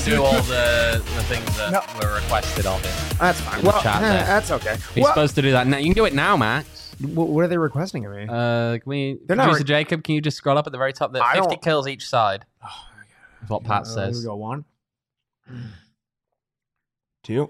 do all the things that were requested of him. That's fine. In the chat there. That's okay. He's supposed to do that now. You can do it now, Max. What are they requesting of me? Can we... They're not Producer Jacob, can you just scroll up at the very top there? 50 kills each side. Oh, is what Pat says. Here we go. 1, 2.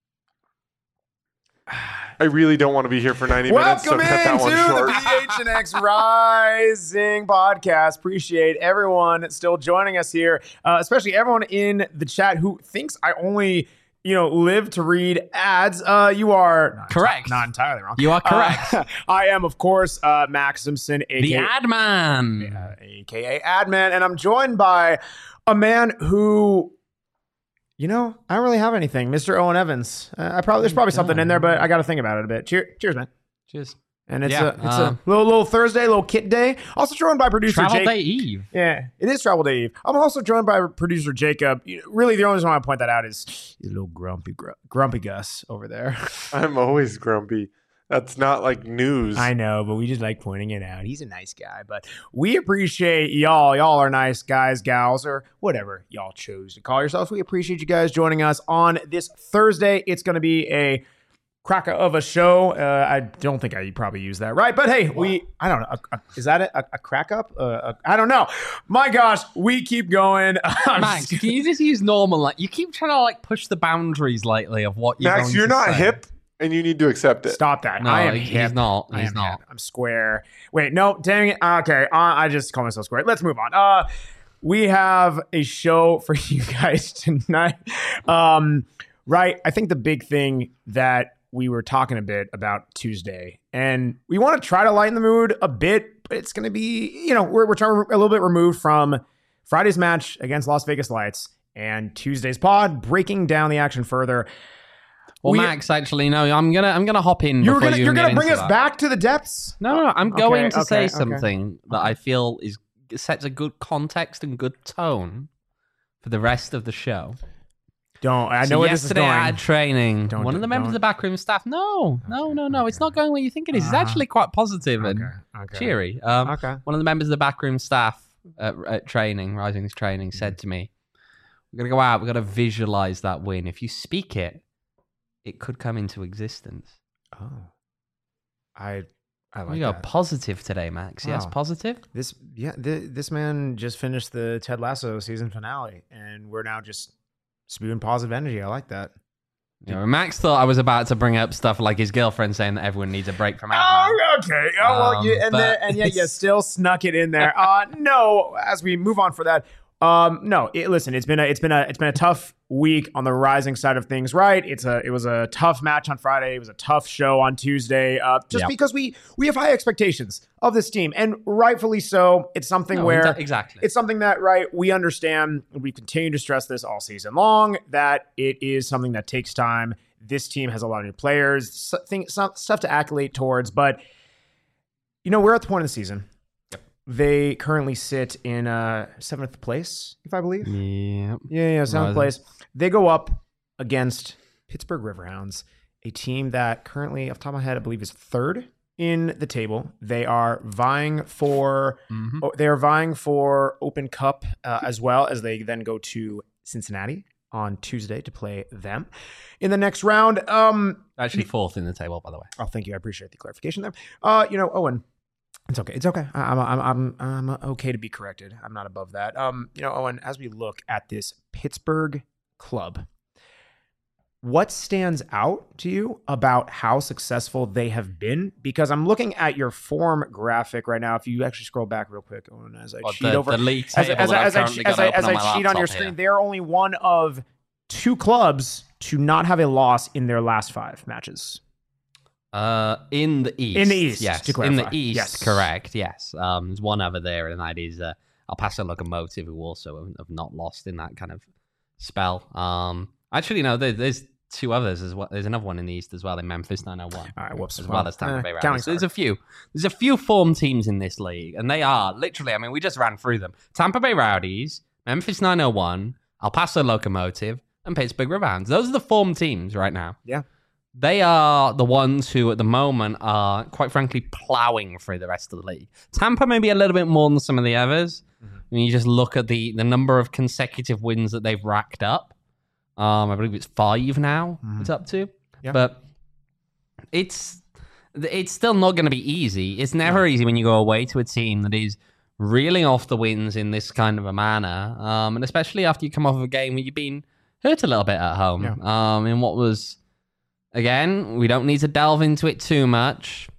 I really don't want to be here for 90 minutes, so Welcome cut that one into short. the PHNX Rising podcast. Appreciate everyone still joining us here, especially everyone in the chat who thinks I only, live to read ads. You are correct. Not entirely wrong. You are correct. I am, of course, Max Simpson, the Ad Man, aka Adman, and I'm joined by a man who. I don't really have anything. Mr. Owen Evans. There's probably something in there, but I got to think about it a bit. Cheers, man. Cheers. And it's a little Thursday, little kit day. Also joined by producer Travel Jake. Day Eve. Yeah, it is Travel Day Eve. I'm also joined by producer Jacob. Really, the only reason I want to point that out is a little grumpy Gus over there. I'm always grumpy. That's not like news. I know, but we just like pointing it out. He's a nice guy, but we appreciate y'all. Y'all are nice guys, gals, or whatever y'all chose to call yourselves. We appreciate you guys joining us on this Thursday. It's going to be a cracker of a show. I don't think I probably use that right, but hey, I don't know. Is that a crack up? I don't know. My gosh, we keep going. Max, can you just use normal? You keep trying to push the boundaries lately of what you're Max, going you're to not say. hip. And you need to accept it. Stop that. No, I am he's hip. not. I He's am not. hip. I'm square. Wait, no, dang it. Okay, I just call myself square. Let's move on. We have a show for you guys tonight. Right, I think the big thing that we were talking a bit about Tuesday, and we want to try to lighten the mood a bit, but it's going to be, we're trying a little bit removed from Friday's match against Las Vegas Lights and Tuesday's pod, breaking down the action further. Well, Max, actually, no. I'm gonna hop in. You're gonna bring us back to the depths. No. I'm going to say okay. something that I feel sets a good context and good tone for the rest of the show. I know where this is going. Yesterday at training, one of the members of the backroom staff. No. It's not going where you think it is. It's actually quite positive and cheery. One of the members of the backroom staff at training, Rising's training, said to me, "We're gonna go out. We've got to visualize that win. If you speak it, it could come into existence." Oh, I like we are that. Positive today, Max. Wow. Yes, positive. This man just finished the Ted Lasso season finale, and we're now just spewing positive energy. I like that. Max thought I was about to bring up stuff like his girlfriend saying that everyone needs a break from Adman. Oh, okay. You still snuck it in there. No, as we move on for that. Listen, it's been a tough week on the Rising side of things, right? It was a tough match on Friday. It was a tough show on Tuesday. Because we have high expectations of this team, and rightfully so. It's something it's something that, right, we understand. We continue to stress this all season long, that it is something that takes time. This team has a lot of new players, stuff to accolade towards, but we're at the point of the season. They currently sit in 7th place, if I believe. Yeah. Yeah, 7th place. They go up against Pittsburgh Riverhounds, a team that currently, off the top of my head, I believe is 3rd in the table. They are vying for Open Cup as well, as they then go to Cincinnati on Tuesday to play them in the next round. Actually 4th in the table, by the way. Oh, thank you. I appreciate the clarification there. Owen. It's okay. I'm okay to be corrected. I'm not above that. Owen, as we look at this Pittsburgh club, what stands out to you about how successful they have been? Because I'm looking at your form graphic right now. If you actually scroll back real quick, Owen, as I cheat over, the league as table I cheat on your screen, they are only one of 2 clubs to not have a loss in their last 5 matches. In the East. In the East, yes. to clarify. In the East, yes. Correct, yes. There's one over there, and that is El Paso Locomotive, who also have not lost in that kind of spell. Actually, no, there's 2 others as well. There's another one in the East as well, in Memphis 901. All right, whoops. As well as Tampa Bay Rowdies. So there's a few form teams in this league, and they are literally, we just ran through them. Tampa Bay Rowdies, Memphis 901, El Paso Locomotive, and Pittsburgh Riverhounds. Those are the form teams right now. Yeah. They are the ones who, at the moment, are, quite frankly, plowing through the rest of the league. Tampa maybe a little bit more than some of the others, When you just look at the number of consecutive wins that they've racked up, I believe it's 5 now. It's up to, but it's still not going to be easy. It's never easy when you go away to a team that is reeling off the wins in this kind of a manner, and especially after you come off of a game where you've been hurt a little bit at home. In what was, again, we don't need to delve into it too much.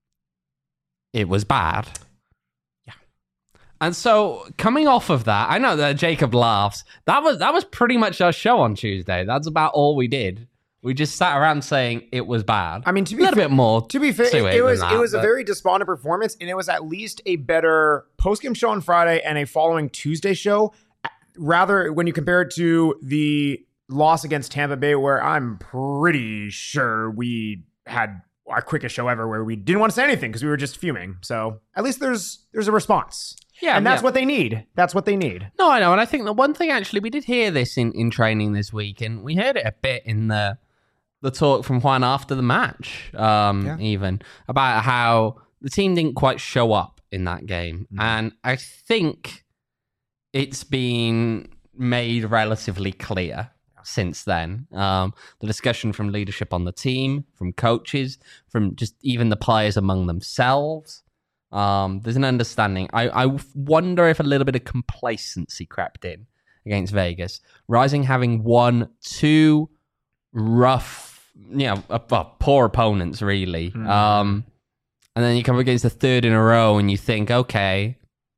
It was bad. Yeah. And so coming off of that, I know that Jacob laughs. That was pretty much our show on Tuesday. That's about all we did. We just sat around saying it was bad. I mean, to be a little bit more. To be fair, it was a very despondent performance, and it was at least a better postgame show on Friday and a following Tuesday show. Rather, when you compare it to the loss against Tampa Bay, where I'm pretty sure we had our quickest show ever, where we didn't want to say anything because we were just fuming. So at least there's a response. Yeah, and that's what they need. That's what they need. No, I know, and I think the one thing actually we did hear this in training this week, and we heard it a bit in the talk from Juan after the match, even, about how the team didn't quite show up in that game. And I think it's been made relatively clear since then. The discussion from leadership on the team, from coaches, from just even the players among themselves. There's an understanding. I wonder if a little bit of complacency crept in against Vegas. Rising having won 2 rough, poor opponents, really. And then you come against the third in a row and you think, okay,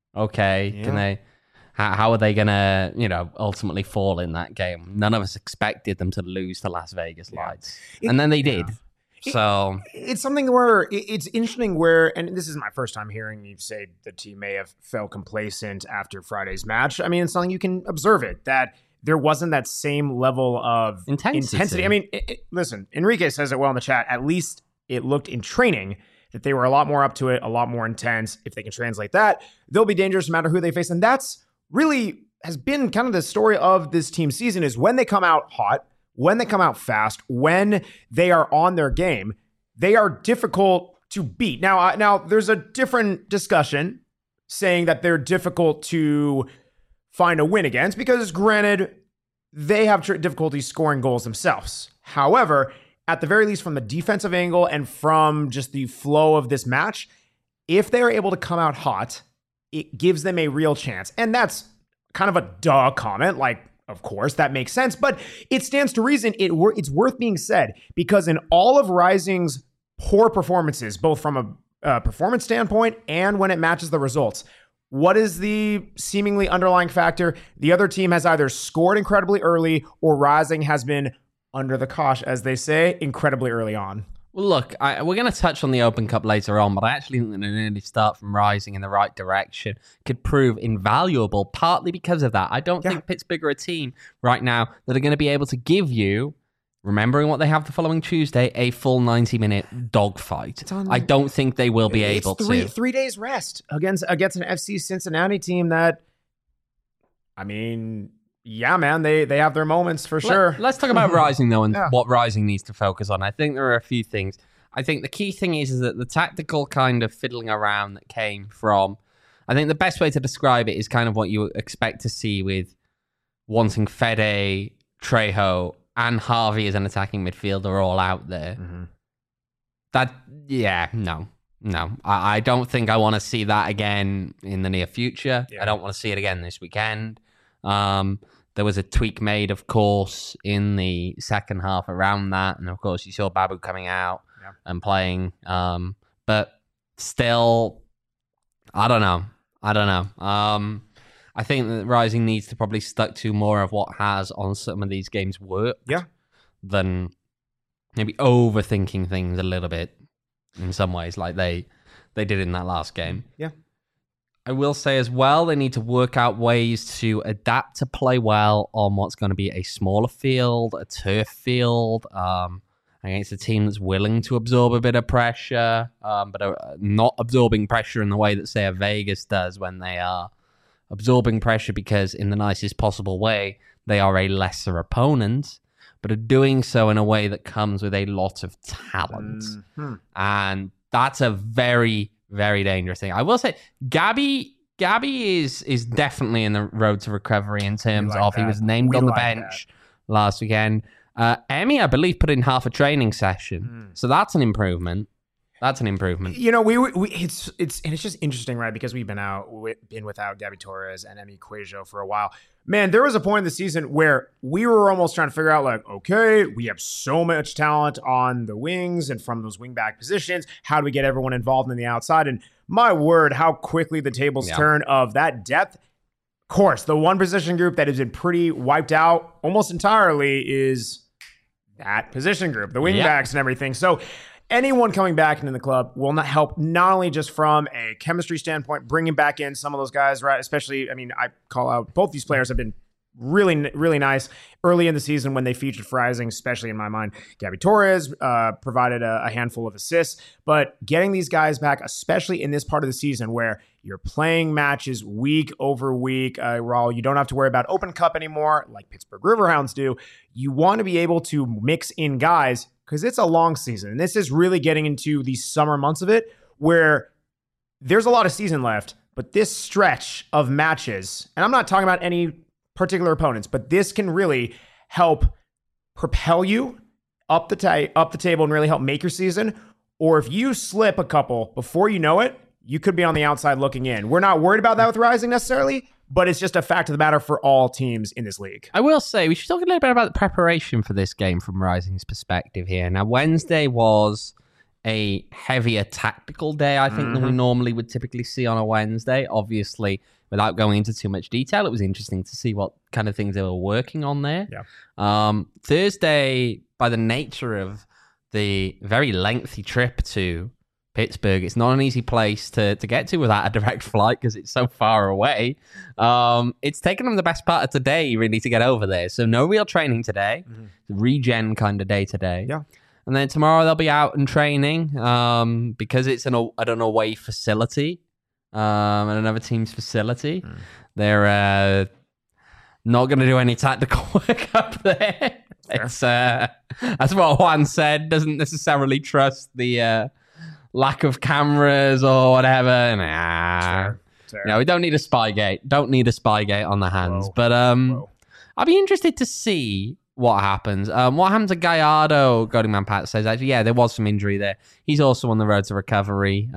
can they... How are they going to, ultimately fall in that game? None of us expected them to lose to Las Vegas Lights. And then they did. So it's something where it's interesting where, and this is my first time hearing you say the team may have felt complacent after Friday's match. I mean, it's something you can observe that there wasn't that same level of intensity. I mean, listen, Enrique says it well in the chat. At least it looked in training that they were a lot more up to it, a lot more intense. If they can translate that, they'll be dangerous no matter who they face. And that's really has been kind of the story of this team season, is when they come out hot, when they come out fast, when they are on their game, they are difficult to beat. Now there's a different discussion saying that they're difficult to find a win against because, granted, they have difficulty scoring goals themselves. However, at the very least from the defensive angle and from just the flow of this match, if they are able to come out hot, it gives them a real chance. And that's kind of a duh comment. Like, of course, that makes sense. But it stands to reason it's worth being said, because in all of Rising's poor performances, both from a performance standpoint and when it matches the results, what is the seemingly underlying factor? The other team has either scored incredibly early or Rising has been under the cosh, as they say, incredibly early on. Well, look, we're going to touch on the Open Cup later on, but I actually think that an early start from Rising in the right direction could prove invaluable, partly because of that. I don't think Pittsburgh are a team right now that are going to be able to give you, remembering what they have the following Tuesday, a full 90-minute dogfight. I don't think they will be able to. 3 days rest against an FC Cincinnati team that, I mean... Yeah, man, they have their moments for sure. Let's talk about Rising, though, and what Rising needs to focus on. I think there are a few things. I think the key thing is that the tactical kind of fiddling around that came from... I think the best way to describe it is kind of what you expect to see with wanting Fede, Trejo, and Harvey as an attacking midfielder all out there. No. I don't think I want to see that again in the near future. I don't want to see it again this weekend. There was a tweak made, of course, in the second half around that. And, of course, you saw Babu coming out and playing. But still, I don't know. I think that Rising needs to probably stuck to more of what has on some of these games worked than maybe overthinking things a little bit in some ways like they did in that last game. I will say as well, they need to work out ways to adapt to play well on what's going to be a smaller field, a turf field, against a team that's willing to absorb a bit of pressure, but are not absorbing pressure in the way that, say, a Vegas does when they are absorbing pressure because, in the nicest possible way, they are a lesser opponent, but are doing so in a way that comes with a lot of talent. And that's a very... very dangerous thing. I will say, Gabby Gabby is definitely in the road to recovery in terms of he was named on the bench last weekend. Emmy, I believe, put in half a training session, so that's an improvement. That's an improvement. You know, it's just interesting, right? Because we've been without Gabby Torres and Emmy Cuejo for a while. Man, there was a point in the season where we were almost trying to figure out, like, okay, we have so much talent on the wings and from those wingback positions. How do we get everyone involved in the outside? And my word, how quickly the tables turn of that depth. Of course, the one position group that has been pretty wiped out almost entirely is that position group, the wingbacks and everything. So anyone coming back into the club will not help, not only just from a chemistry standpoint, bringing back in some of those guys, right? Especially, I mean, I call out both these players have been really, really nice early in the season when they featured for Rising, especially in my mind. Gabby Torres provided a handful of assists, but getting these guys back, especially in this part of the season where you're playing matches week over week, Raul, you don't have to worry about Open Cup anymore like Pittsburgh Riverhounds do. You want to be able to mix in guys because it's a long season. And this is really getting into the summer months of it where there's a lot of season left, but this stretch of matches, and I'm not talking about any particular opponents, but this can really help propel you up the table and really help make your season. Or if you slip a couple before you know it, you could be on the outside looking in. We're not worried about that with Rising necessarily, but it's just a fact of the matter for all teams in this league. I will say, we should talk a little bit about the preparation for this game from Rising's perspective here. Now, Wednesday was a heavier tactical day, I think, than we normally would typically see on a Wednesday. Obviously, without going into too much detail, it was interesting to see what kind of things they were working on there. Yeah. Thursday, by the nature of the very lengthy trip to Pittsburgh, it's not an easy place to get to without a direct flight because it's so far away. It's taken them the best part of today, really, to get over there. So no real training today. Regen kind of day today. Yeah. And then tomorrow they'll be out and training because it's an away facility. And another team's facility. They're not going to do any tactical work up there. It's that's what Juan said. Doesn't necessarily trust the lack of cameras or whatever. Nah, sure. We don't need a Spygate. Don't need a Spygate on the hands. Whoa. But I'll be interested to see what happens. What happened to Gallardo? Golding Man Pat says actually, yeah, there was some injury there. He's also on the road to recovery.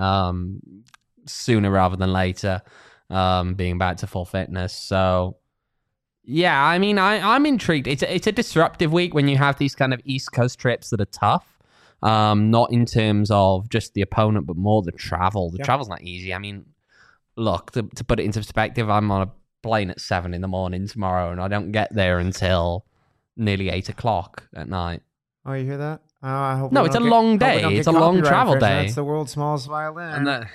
Sooner rather than later, being back to full fitness. So, yeah, I mean, I'm intrigued. It's a disruptive week when you have these kind of East Coast trips that are tough. Not in terms of just the opponent, but more the travel. The travel's not easy. I mean, look, to put it into perspective, I'm on a plane at 7 a.m. tomorrow, and I don't get there until nearly 8 o'clock at night. Oh, you hear that? I hope no, it's a long day. It's a long travel day. That's the world's smallest violin. And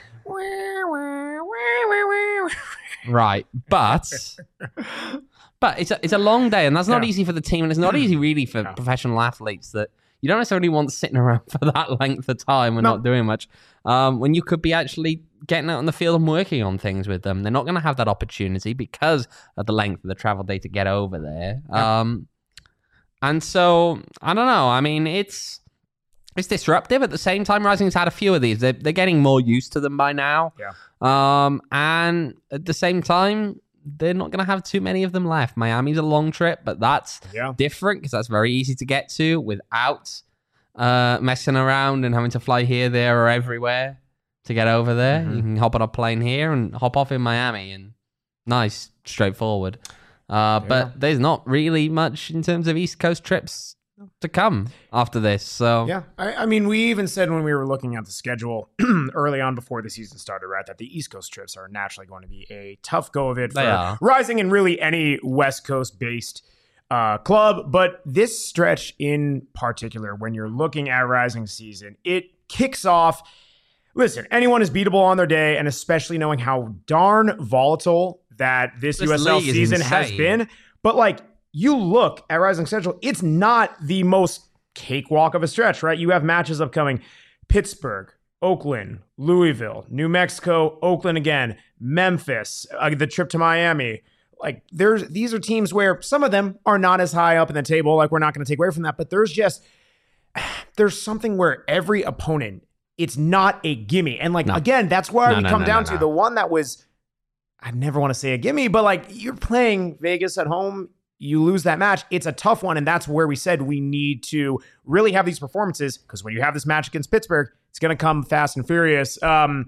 right, but it's a long day, and that's not easy for the team, and it's not easy really for professional athletes that you don't necessarily want sitting around for that length of time and not doing much. When you could be actually getting out on the field and working on things with them, they're not going to have that opportunity because of the length of the travel day to get over there. And so I don't know. I mean, it's disruptive. At the same time, Rising's had a few of these. They're getting more used to them by now. Yeah. And at the same time, they're not going to have too many of them left. Miami's a long trip, but that's different because that's very easy to get to without messing around and having to fly here, there, or everywhere to get over there. You can hop on a plane here and hop off in Miami, and nice, straightforward. But there's not really much in terms of East Coast trips to come after this. So yeah, I mean, we even said when we were looking at the schedule early on before the season started, right, that the East Coast trips are naturally going to be a tough go of it for Rising and really any West Coast based club. But this stretch in particular, when you're looking at Rising season, it kicks off. Listen, anyone is beatable on their day, and especially knowing how darn volatile that this USL season has been. But like, you look at Rising Central, it's not the most cakewalk of a stretch, right? You have matches upcoming: Pittsburgh, Oakland, Louisville, New Mexico, Oakland again, Memphis, the trip to Miami. Like, these are teams where some of them are not as high up in the table. Like, we're not going to take away from that, but there's something where every opponent, it's not a gimme. And like, again, that's why we come down to the one that was I never want to say a gimme, but like you're playing Vegas at home, you lose that match. It's a tough one. And that's where we said we need to really have these performances, because when you have this match against Pittsburgh, it's going to come fast and furious.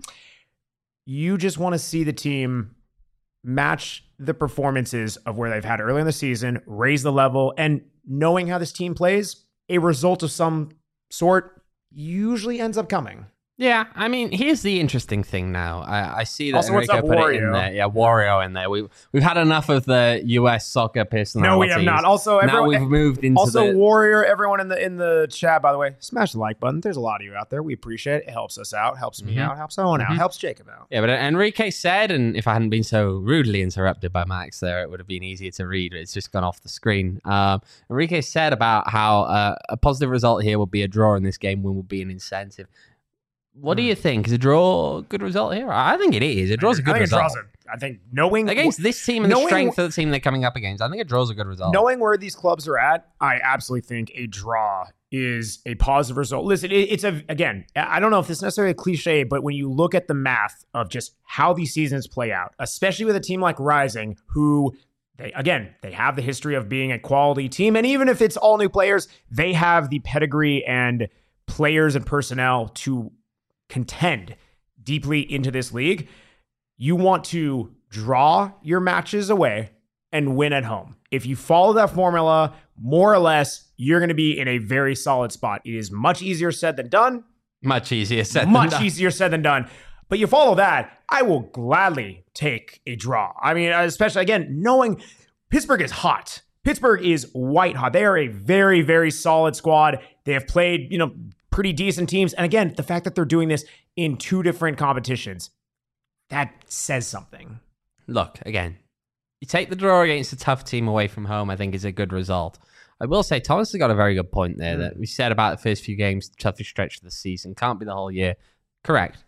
You just want to see the team match the performances of where they've had early in the season, raise the level, and knowing how this team plays, a result of some sort usually ends up coming. Yeah, I mean, here's the interesting thing now. I see that also, Enrico put it in there. Yeah, Wario in there. We've had enough of the US soccer personalities. No, we have not. Also, everyone, now we've moved into also Warrior. Everyone in the chat, by the way, smash the like button. There's a lot of you out there. We appreciate it. It helps us out, helps me out, helps Owen out, helps Jacob out. Yeah, but Enrique said, and if I hadn't been so rudely interrupted by Max there, it would have been easier to read. It's just gone off the screen. Enrique said about how a positive result here would be a draw in this game, will be an incentive. What do you think? Is a draw a good result here? I think it is. A draw's a good result. I think knowing against this team and the strength of the team they're coming up against, I think a draw's a good result. Knowing where these clubs are at, I absolutely think a draw is a positive result. Listen, again, I don't know if this is necessarily a cliche, but when you look at the math of just how these seasons play out, especially with a team like Rising, who they have the history of being a quality team, and even if it's all new players, they have the pedigree and players and personnel to contend deeply into this league. You want to draw your matches away and win at home. If you follow that formula, more or less, you're going to be in a very solid spot. It is much easier said than done. Much easier said than done. But you follow that, I will gladly take a draw. I mean, especially, again, knowing Pittsburgh is hot. Pittsburgh is white hot. They are a very, very solid squad. They have played, pretty decent teams. And again, the fact that they're doing this in two different competitions, that says something. Look, again, you take the draw against a tough team away from home, I think is a good result. I will say Thomas has got a very good point there that we said about the first few games, toughest stretch of the season. Can't be the whole year. Correct.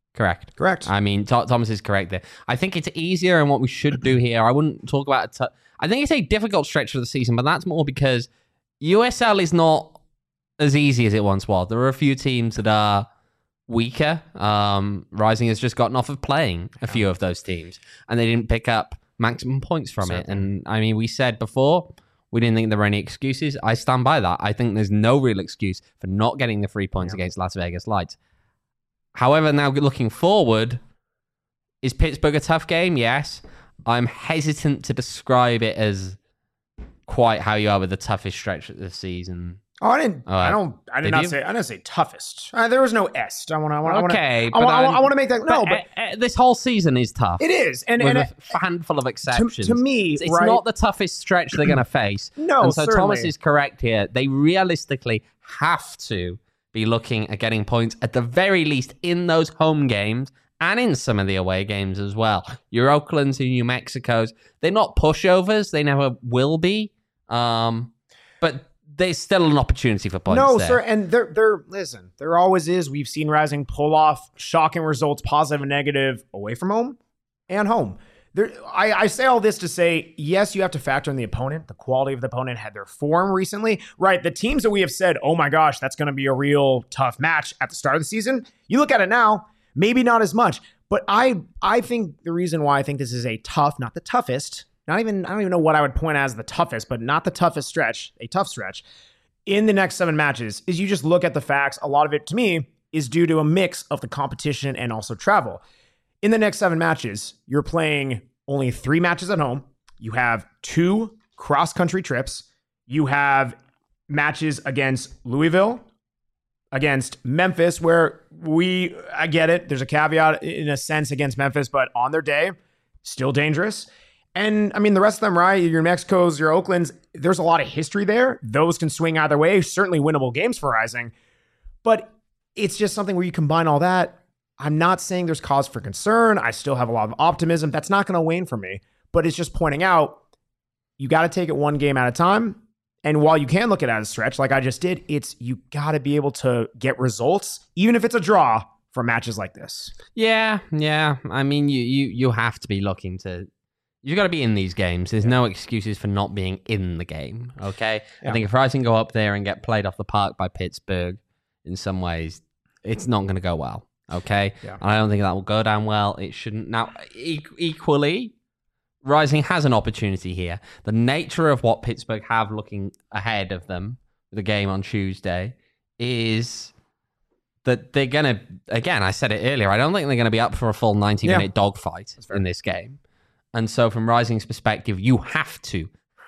I mean, Thomas is correct there. I think it's easier, and what we should do here, I wouldn't talk about I think it's a difficult stretch of the season, but that's more because USL is not as easy as it once was. There are a few teams that are weaker. Rising has just gotten off of playing a few of those teams, and they didn't pick up maximum points from it. And I mean, we said before, we didn't think there were any excuses. I stand by that. I think there's no real excuse for not getting the 3 points against Las Vegas Lights. However, now looking forward, is Pittsburgh a tough game? Yes. I'm hesitant to describe it as quite how you are with the toughest stretch of the season. Oh, I didn't say toughest. There was no est. I want to make that. No, but this whole season is tough. It is, and a handful of exceptions. To me, it's not the toughest stretch they're going to face. No, and so certainly. Thomas is correct here. They realistically have to be looking at getting points at the very least in those home games and in some of the away games as well. Your Oaklands and New Mexico's, they're not pushovers. They never will be. But there's still an opportunity for points. No, there. sir. And there always is. We've seen Rising pull off shocking results, positive and negative, away from home and home. I say all this to say, yes, you have to factor in the opponent. The quality of the opponent had their form recently. Right. The teams that we have said, oh my gosh, that's going to be a real tough match at the start of the season. You look at it now, maybe not as much. But I think the reason why I think this is a tough, not the toughest, I don't even know what I would point as the toughest, but not the toughest stretch, a tough stretch in the next 7 matches, is you just look at the facts. A lot of it, to me, is due to a mix of the competition and also travel. In the next 7 matches, you're playing only 3 matches at home. You have 2 cross-country trips. You have matches against Louisville, against Memphis, where I get it. There's a caveat in a sense against Memphis, but on their day, still dangerous. And I mean, the rest of them, right? Your Mexico's, your Oakland's, there's a lot of history there. Those can swing either way. Certainly winnable games for Rising. But it's just something where you combine all that. I'm not saying there's cause for concern. I still have a lot of optimism. That's not going to wane for me. But it's just pointing out, you got to take it one game at a time. And while you can look at it as a stretch, like I just did, you got to be able to get results, even if it's a draw, for matches like this. Yeah. I mean, you have to be looking to... You've got to be in these games. There's no excuses for not being in the game, okay? Yeah. I think if Rising go up there and get played off the park by Pittsburgh, in some ways, it's not going to go well. Okay? Yeah. And I don't think that will go down well. It shouldn't. Now, equally, Rising has an opportunity here. The nature of what Pittsburgh have looking ahead of them, the game on Tuesday, is that they're going to, again, I said it earlier, I don't think they're going to be up for a full 90-minute dogfight in this game. And so from Rising's perspective, you have to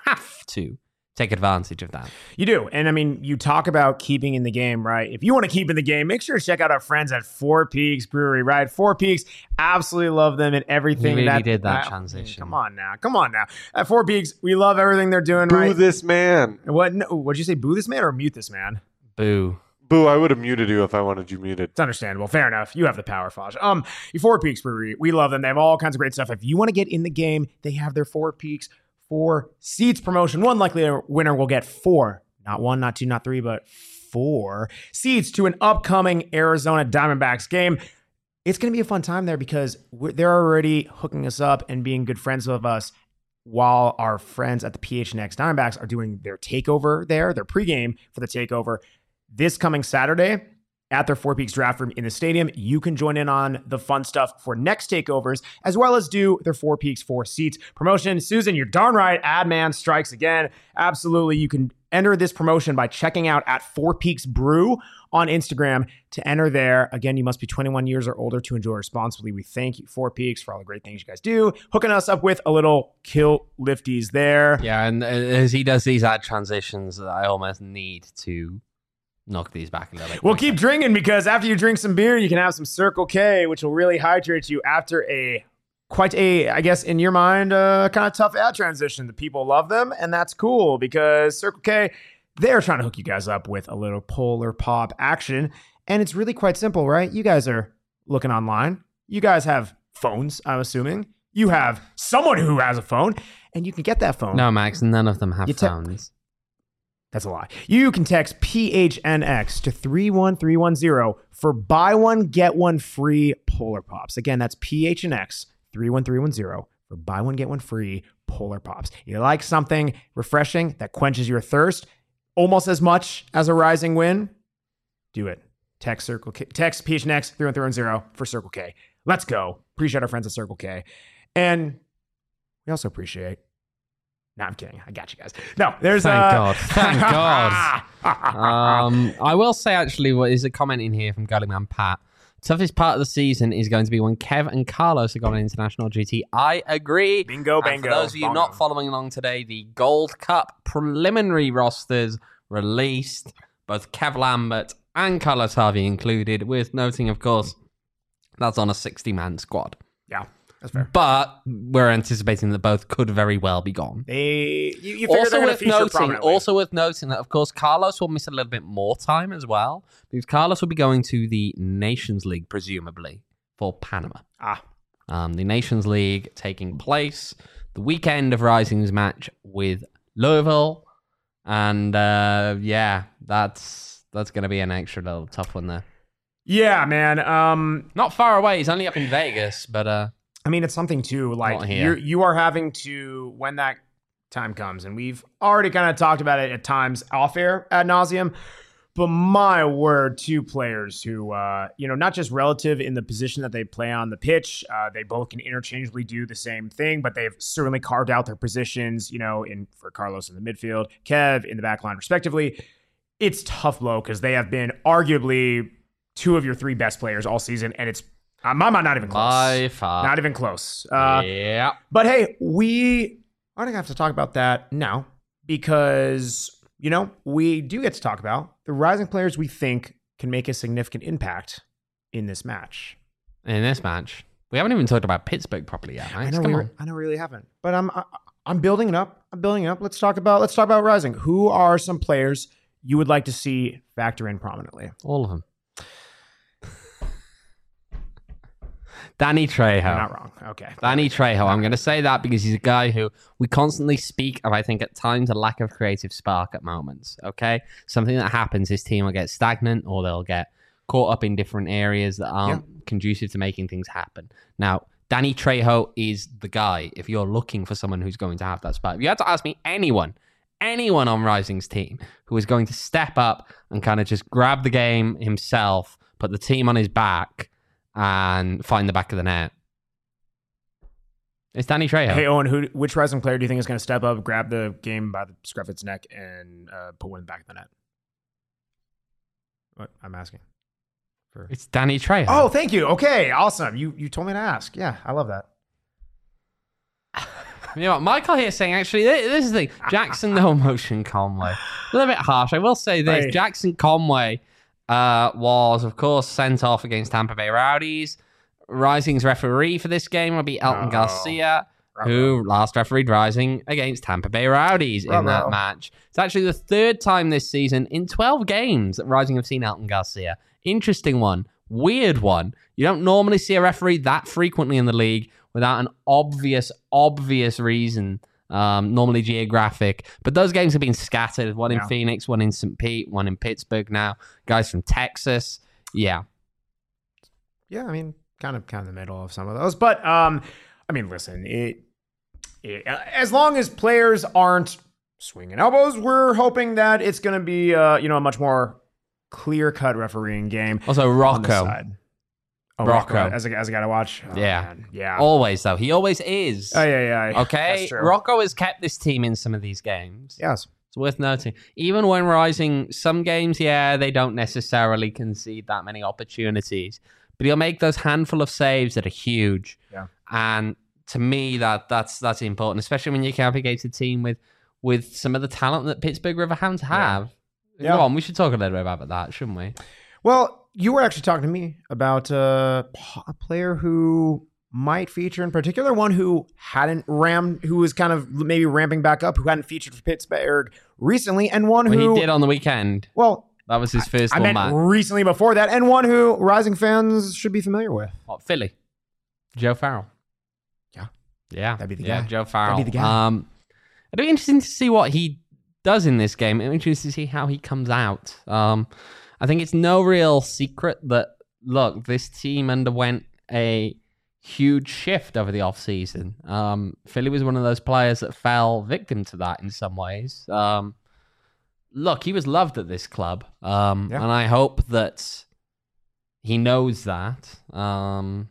take advantage of that. You do. And I mean, you talk about keeping in the game, right? If you want to keep in the game, make sure to check out our friends at Four Peaks Brewery, right? Four Peaks, absolutely love them and everything. You really did that transition. Come on now. At Four Peaks, we love everything they're doing, boo right? Boo this man. What? No, what'd you say, boo this man or mute this man? Boo. Boo, I would have muted you if I wanted you muted. It's understandable. Fair enough. You have the power, Fosh. Four Peaks Brewery, we love them. They have all kinds of great stuff. If you want to get in the game, they have their Four Peaks 4 seats promotion. One likely winner will get 4, not 1, not 2, not 3, but 4 seats to an upcoming Arizona Diamondbacks game. It's going to be a fun time there because they're already hooking us up and being good friends with us while our friends at the PHNX Diamondbacks are doing their takeover there, their pregame for the takeover this coming Saturday at their Four Peaks draft room in the stadium. You can join in on the fun stuff for next takeovers, as well as do their Four Peaks 4 seats promotion. Susan, you're darn right. Ad man strikes again. Absolutely. You can enter this promotion by checking out at Four Peaks Brew on Instagram to enter there. Again, you must be 21 years or older to enjoy responsibly. We thank you, Four Peaks, for all the great things you guys do. Hooking us up with a little kill lifties there. Yeah, and as he does these ad transitions, I almost need to knock these back a little. We'll keep drinking because after you drink some beer, you can have some Circle K, which will really hydrate you after quite a, I guess, in your mind, kind of tough ad transition. The people love them, and that's cool because Circle K, they're trying to hook you guys up with a little Polar Pop action, and it's really quite simple, right? You guys are looking online. You guys have phones, I'm assuming. You have someone who has a phone, and you can get that phone. No, Max, none of them have phones. That's a lie. You can text PHNX to 31310 for buy one, get one free Polar Pops. Again, that's PHNX 31310 for buy one, get one free Polar Pops. You like something refreshing that quenches your thirst almost as much as a Rising win? Do it. Text PHNX 31310 for Circle K. Let's go. Appreciate our friends at Circle K. And we also appreciate... No, I'm kidding. I got you guys. No, there's Thank God. I will say, actually, what is a comment in here from Gullyman Pat. Toughest part of the season is going to be when Kev and Carlos have got an international duty. I agree. Bingo, and for those of you not following along today, the Gold Cup preliminary rosters released. Both Kev Lambert and Carlos Harvey included, with noting, of course, that's on a 60-man squad. Yeah. That's fair. But we're anticipating that both could very well be gone. Also worth noting that, of course, Carlos will miss a little bit more time as well, because Carlos will be going to the Nations League, presumably, for Panama. The Nations League taking place the weekend of Rising's match with Louisville. And, that's going to be an extra little tough one there. Yeah, man. Not far away. He's only up in Vegas, but... I mean, it's something too, like you are having to, when that time comes, and we've already kind of talked about it at times off air ad nauseum, but my word, 2 players who, not just relative in the position that they play on the pitch, they both can interchangeably do the same thing, but they've certainly carved out their positions, for Carlos in the midfield, Kev in the back line, respectively. It's tough blow because they have been arguably 2 of your 3 best players all season, and it's my mind, not even close. By far. Not even close. Yeah. But hey, we aren't going to have to talk about that now because, we do get to talk about the Rising players we think can make a significant impact in this match. In this match? We haven't even talked about Pittsburgh properly yet, right? I know we really haven't. But I'm building it up. Let's talk about Rising. Who are some players you would like to see factor in prominently? All of them. Danny Trejo. You're not wrong. Okay. Danny Trejo. I'm going to say that because he's a guy who we constantly speak of, I think, at times, a lack of creative spark at moments. Okay? Something that happens, his team will get stagnant or they'll get caught up in different areas that aren't conducive to making things happen. Now, Danny Trejo is the guy if you're looking for someone who's going to have that spark. If you had to ask me anyone on Rising's team who is going to step up and kind of just grab the game himself, put the team on his back, and find the back of the net. It's Danny Trejo. Hey, Owen, which Rising player do you think is going to step up, grab the game by the scruff of its neck, and put one back of the net? What I'm asking. It's Danny Trejo. Oh, thank you. Okay, awesome. You told me to ask. Yeah, I love that. You know what? Michael here saying, actually, this is the thing. Jackson No Motion Conway. A little bit harsh. I will say this. Right. Jackson Conway was, of course, sent off against Tampa Bay Rowdies. Rising's referee for this game will be Elton Garcia, who last refereed Rising against Tampa Bay Rowdies in that match. It's actually the third time this season in 12 games that Rising have seen Elton Garcia. Interesting one. Weird one. You don't normally see a referee that frequently in the league without an obvious reason, normally geographic. But those games have been scattered. One in Phoenix, one in St. Pete, one in Pittsburgh now. Guys from Texas. Yeah. Yeah, I mean, kind of in the middle of some of those. But, I mean, listen, as long as players aren't swinging elbows, we're hoping that it's going to be, a much more clear-cut refereeing game. Also, Rocco. Rocco. As a guy to watch? Oh, man. Yeah. Always, though. He always is. Oh, yeah. Okay? Rocco has kept this team in some of these games. Yes. It's worth noting. Even when Rising, some games, they don't necessarily concede that many opportunities. But he'll make those handful of saves that are huge. Yeah. And to me, that's important, especially when you can navigate a team with some of the talent that Pittsburgh Riverhounds have. Yeah. Go on, we should talk a little bit about that, shouldn't we? Well, you were actually talking to me about a player who might feature in particular, one who who was kind of maybe ramping back up, who hadn't featured for Pittsburgh recently, and one who he did on the weekend. Well, that was his first I meant match. Recently before that, and one who Rising fans should be familiar with. What, Philly? Joe Farrell. Yeah. That'd be the guy. Yeah, Joe Farrell. That'd be the guy. It'd be interesting to see what he does in this game. It'd be interesting to see how he comes out. I think it's no real secret that, look, this team underwent a huge shift over the offseason. Philly was one of those players that fell victim to that in some ways. Look, he was loved at this club, and I hope that he knows that. The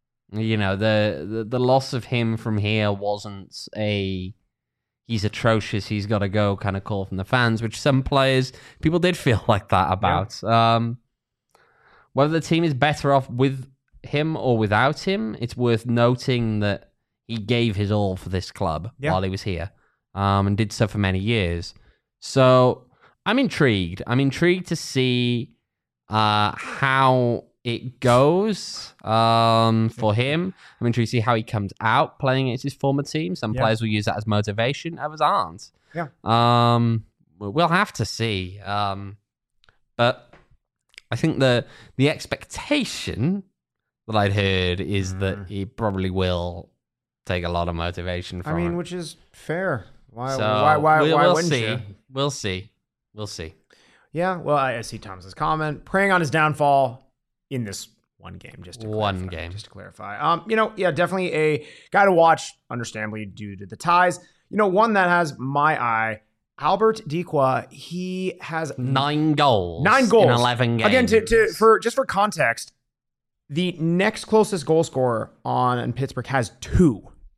loss of him from here wasn't he's atrocious, he's got to go kind of call from the fans, which some people did feel like that about. Yeah. Whether the team is better off with him or without him, it's worth noting that he gave his all for this club while he was here, and did so for many years. So I'm intrigued. I'm intrigued to see how it goes for him. I'm intrigued to see how he comes out playing against his former team. Some players will use that as motivation, others aren't. Yeah. We'll have to see. But I think the expectation that I'd heard is that he probably will take a lot of motivation from it. Which is fair. Why we'll wouldn't see. you? We'll see. Yeah, well, I see Thomas's comment. Preying on his downfall in this one game, just to clarify. Definitely a guy to watch, understandably, due to the ties. One that has my eye, Albert Dikwa. He has 9 goals. In 11 games. Again, for context, the next closest goal scorer on Pittsburgh has 2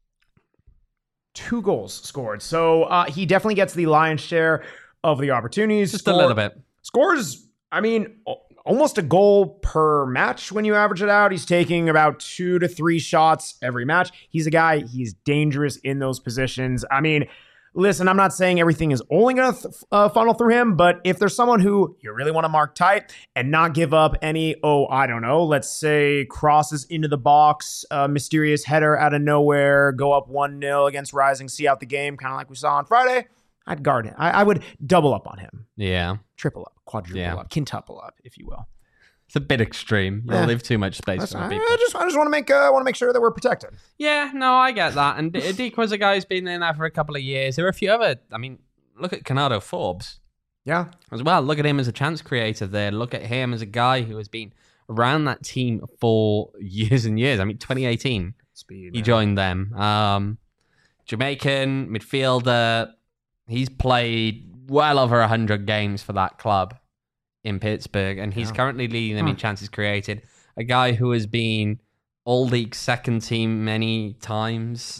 goals scored. So he definitely gets the lion's share of the opportunities. Just a little bit. Scores, almost a goal per match when you average it out. He's taking about 2 to 3 shots every match. He's a guy, he's dangerous in those positions. Listen, I'm not saying everything is only going to funnel through him, but if there's someone who you really want to mark tight and not give up any, let's say crosses into the box, mysterious header out of nowhere, go up 1-0 against Rising, see out the game, kind of like we saw on Friday, I'd guard him. I would double up on him. Yeah. Triple up, quadruple up, quintuple up, if you will. It's a bit extreme. You'll leave too much space for people. I just want to make sure that we're protected. Yeah, no, I get that. And Dikwa's a guy who's been in there for a couple of years. There are a few other. Look at Canado Forbes. Yeah. As well. Look at him as a chance creator there. Look at him as a guy who has been around that team for years and years. 2018. He joined them. Jamaican midfielder. He's played well over 100 games for that club in Pittsburgh, and he's currently leading them in chances created. a guy who has been all-league second team many times.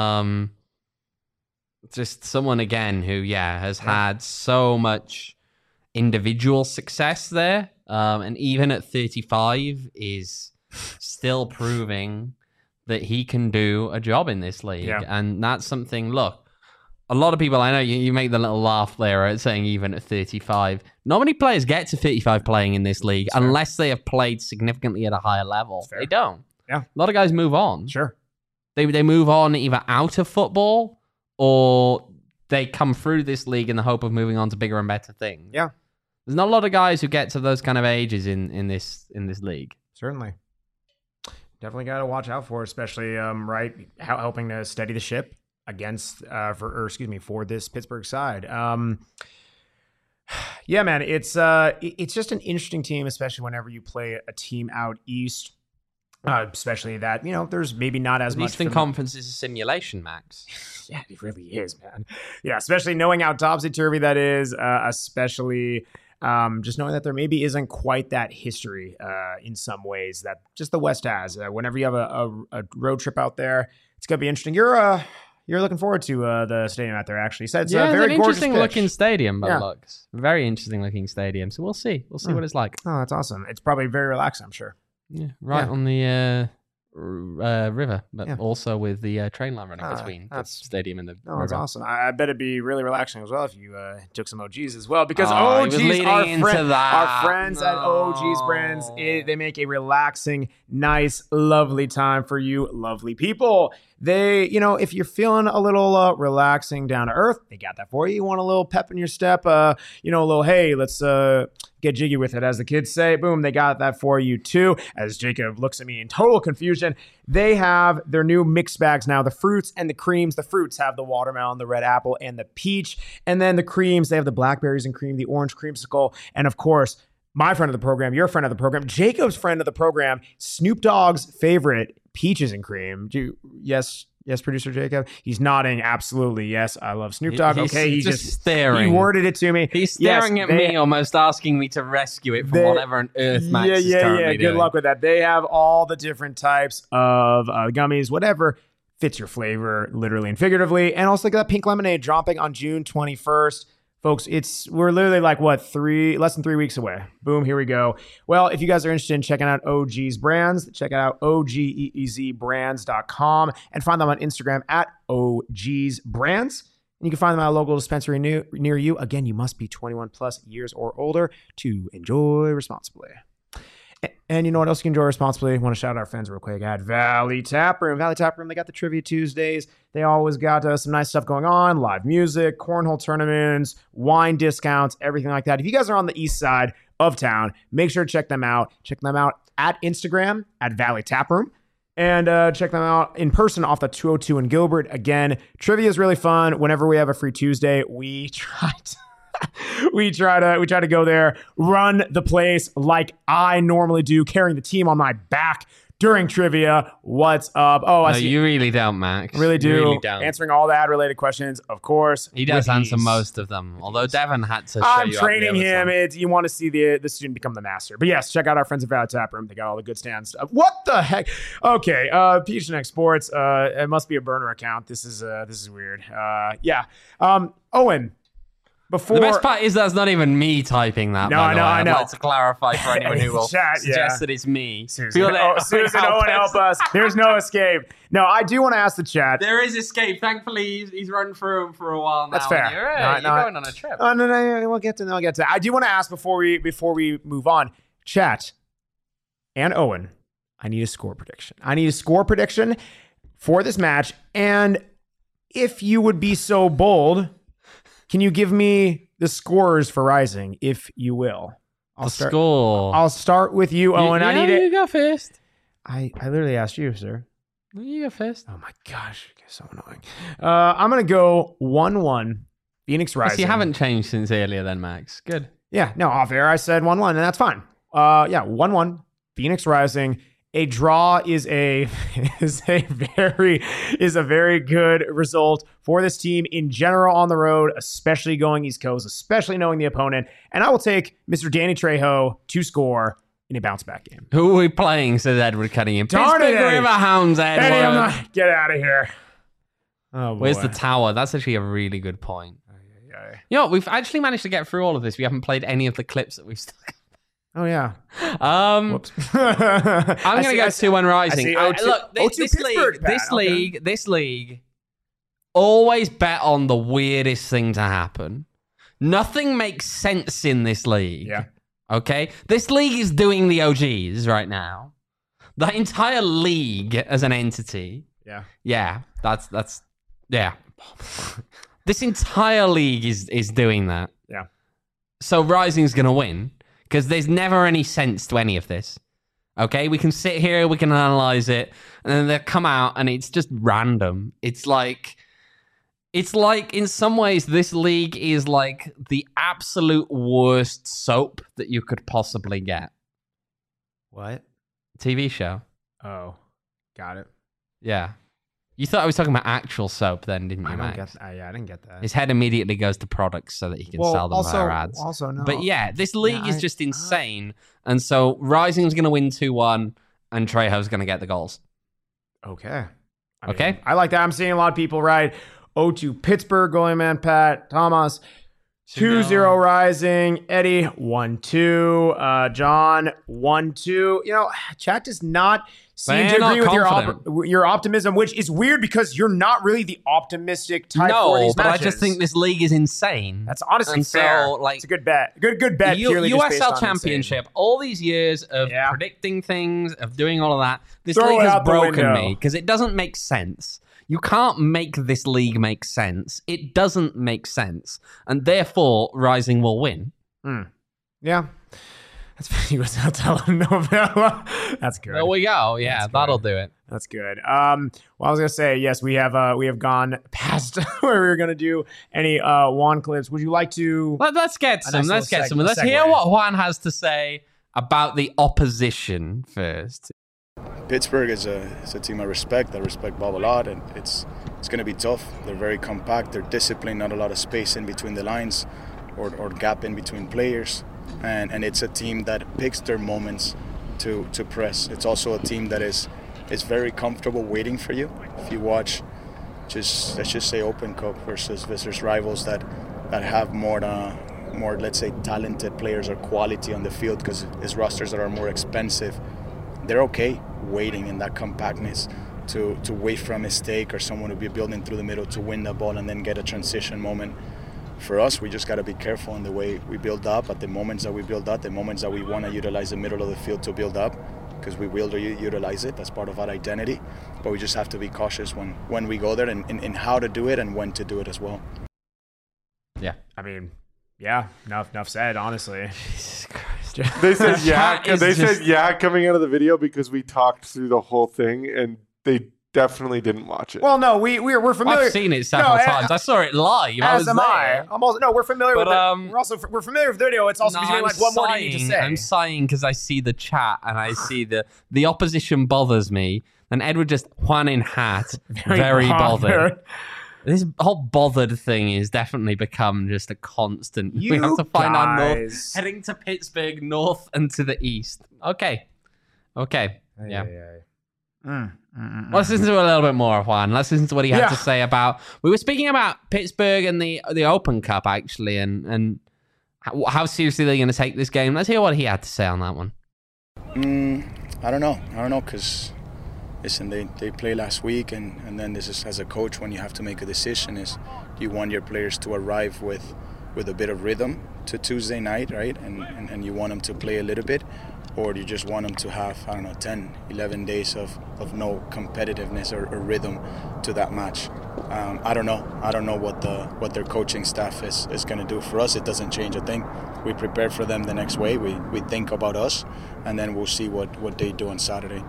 Just someone, again, who, has had so much individual success there. And even at 35 is still proving that he can do a job in this league. Yeah. And that's something, look, a lot of people, I know you make the little laugh there at saying even at 35. Not many players get to 35 playing in this league unless they have played significantly at a higher level. They don't. Yeah. A lot of guys move on. Sure. They move on either out of football or they come through this league in the hope of moving on to bigger and better things. Yeah. There's not a lot of guys who get to those kind of ages in this league. Certainly. Definitely got to watch out for, especially helping to steady the ship against for this Pittsburgh side. Yeah, man, it's just an interesting team, especially whenever you play a team out east. Especially that, there's maybe not as much. Eastern Conference is a simulation, Max. Yeah, it really is, man. Yeah, especially knowing how topsy-turvy that is, especially just knowing that there maybe isn't quite that history in some ways that just the West has. Whenever you have a road trip out there, it's going to be interesting. You're looking forward to the stadium out there, actually. So it's a very interesting looking stadium, but looks very interesting looking stadium. So we'll see. We'll see what it's like. Oh, that's awesome. It's probably very relaxing, I'm sure. Yeah, on the river, but also with the train line running between the stadium and the river. That's awesome. I bet it'd be really relaxing as well if you took some OGs as well, because OGs, our friends at OGs Brands, they make a relaxing, nice, lovely time for you lovely people. They, if you're feeling a little relaxing, down to earth, they got that for you. You want a little pep in your step, a little, hey, let's get jiggy with it, as the kids say. Boom, they got that for you too. As Jacob looks at me in total confusion, they have their new mix bags now, the fruits and the creams. The fruits have the watermelon, the red apple, and the peach. And then the creams, they have the blackberries and cream, the orange creamsicle, and of course, my friend of the program, your friend of the program, Jacob's friend of the program, Snoop Dogg's favorite, peaches and cream. Yes, producer Jacob. He's nodding. Absolutely, yes. I love Snoop Dogg. He's just staring. He worded it to me. He's staring at me, almost asking me to rescue it from whatever on earth Max is currently doing. Good luck with that. They have all the different types of gummies, whatever fits your flavor, literally and figuratively. And also, look at that pink lemonade dropping on June 21st. Folks, we're literally like, less than 3 weeks away. Boom, here we go. Well, if you guys are interested in checking out OG's Brands, check out OGEEZbrands.com and find them on Instagram at OG's Brands. And you can find them at a local dispensary near you. Again, you must be 21 plus years or older to enjoy responsibly. And you know what else you can enjoy responsibly? I want to shout out our friends real quick at Valley Tap Room. Valley Tap Room, they got the Trivia Tuesdays. They always got some nice stuff going on, live music, cornhole tournaments, wine discounts, everything like that. If you guys are on the east side of town, make sure to check them out. Check them out at Instagram at Valley Tap Room. And check them out in person off the 202 in Gilbert. Again, trivia is really fun. Whenever we have a free Tuesday, we try to go there, run the place like I normally do, carrying the team on my back during trivia. What's up? Oh, I see. You really don't, Max. Really do. You really don't. Answering all the ad-related questions, of course. He does answer most of them, although Devin had to show I'm training him. You want to see the student become the master. But yes, check out our friends at Valley Tap Room. They got all the good stands. What the heck? Okay, PHNX Sports. It must be a burner account. This is weird. Yeah. Owen. The best part is that's not even me typing that. No, I know. I'd like to clarify for anyone who will suggest that it's me. Susan, Owen, help us. There's no escape. No, I do want to ask the chat. There is escape. Thankfully, he's run through them for a while now. That's fair. You're going on a trip. Oh, no. We'll get to that. I do want to ask before we move on. Chat and Owen, I need a score prediction. For this match. And if you would be so bold, can you give me the scores for Rising, if you will? I'll start with you, Owen. I need it. You go first. I literally asked you, sir. You go first. Oh my gosh, you're so annoying. I'm gonna go 1-1. Phoenix Rising. You haven't changed since earlier, then, Max. Good. Yeah. No, off air I said 1-1, and that's fine. 1-1. Phoenix Rising. A draw is a very good result for this team in general on the road, especially going East Coast, especially knowing the opponent. And I will take Mr. Danny Trejo to score in a bounce back game. Who are we playing? Says Edward Cunningham. Darn it, Pittsburgh Riverhounds, Edward. Eddie, I'm not, get out of here. Oh, boy. Where's the tower? That's actually a really good point. You know, we've actually managed to get through all of this. We haven't played any of the clips that we've stuck. Oh, yeah. Whoops. I'm going to go 2-1 Rising. Look, this league always bet on the weirdest thing to happen. Nothing makes sense in this league. Yeah. Okay? This league is doing the OGs right now. The entire league as an entity. Yeah. Yeah. Yeah. This entire league is doing that. Yeah. So Rising's going to win because there's never any sense to any of this. Okay? We can sit here, we can analyze it, and then they come out and it's just random. It's like in some ways this league is like the absolute worst soap that you could possibly get. What? TV show. Oh, got it. Yeah. You thought I was talking about actual soap then, didn't you, Max? I didn't get that. His head immediately goes to products so that he can sell them via ads. Also, no. But yeah, this league is just insane. And so Rising's going to win 2-1 and Trejo's going to get the goals. Okay. Okay. I like that. I'm seeing a lot of people right. 0-2 Pittsburgh going, man. Pat, Thomas. 2-0 Rising. Eddie, 1-2. John, 1-2. You know, chat does not seem to agree with your optimism, which is weird because you're not really the optimistic type for these matches. I just think this league is insane. That's honestly fair. So, it's a good bet. Good bet. USL Championship, all these years of predicting things, of doing all of that, this league has broken me because it doesn't make sense. You can't make this league make sense. It doesn't make sense. And therefore, Rising will win. Yeah. That's USL telenovela. That's good. There we go. Yeah, that'll do it. That's good. Well, I was going to say, yes, we have gone past where we were going to do any Juan clips. Would you like to... Let's get some. Let's hear what Juan has to say about the opposition first. Pittsburgh is a team I respect. I respect Bob a lot, and it's going to be tough. They're very compact. They're disciplined. Not a lot of space in between the lines, or gap in between players. And it's a team that picks their moments to press. It's also a team that is very comfortable waiting for you. If you watch, let's just say Open Cup versus rivals that have more let's say talented players or quality on the field because it's rosters that are more expensive. They're okay waiting in that compactness to wait for a mistake or someone to be building through the middle to win the ball and then get a transition moment. For us, we just got to be careful in the way we build up, at the moments that we build up, the moments that we want to utilize the middle of the field to build up, because we will utilize it. That's part of our identity. But we just have to be cautious when we go there and how to do it and when to do it as well. Yeah. I mean, yeah, enough said, honestly. Jesus Christ. They said yeah coming out of the video because we talked through the whole thing and they definitely didn't watch it. Well, no, we're familiar. I've seen it several times. I saw it live. As am I. We're familiar with it. We're familiar with the video. It's also between what more do you need to say? I'm sighing because I see the chat and I see the opposition bothers me. And Edward just Juan in hat, very bothered. This whole bothered thing is definitely become just a constant. We have to find our north, heading to Pittsburgh, north and to the east. Okay. Yeah. Let's listen to a little bit more of Juan. Let's listen to what he had to say about... We were speaking about Pittsburgh and the Open Cup, actually, and how seriously they're going to take this game. Let's hear what he had to say on that one. I don't know, because... Listen, they played last week, and then this is, as a coach, when you have to make a decision, is you want your players to arrive with a bit of rhythm to Tuesday night, right? And you want them to play a little bit, or do you just want them to have, 10, 11 days of no competitiveness or rhythm to that match? I don't know. I don't know what their coaching staff is going to do. For us, it doesn't change a thing. We prepare for them the next way. We think about us, and then we'll see what they do on Saturday.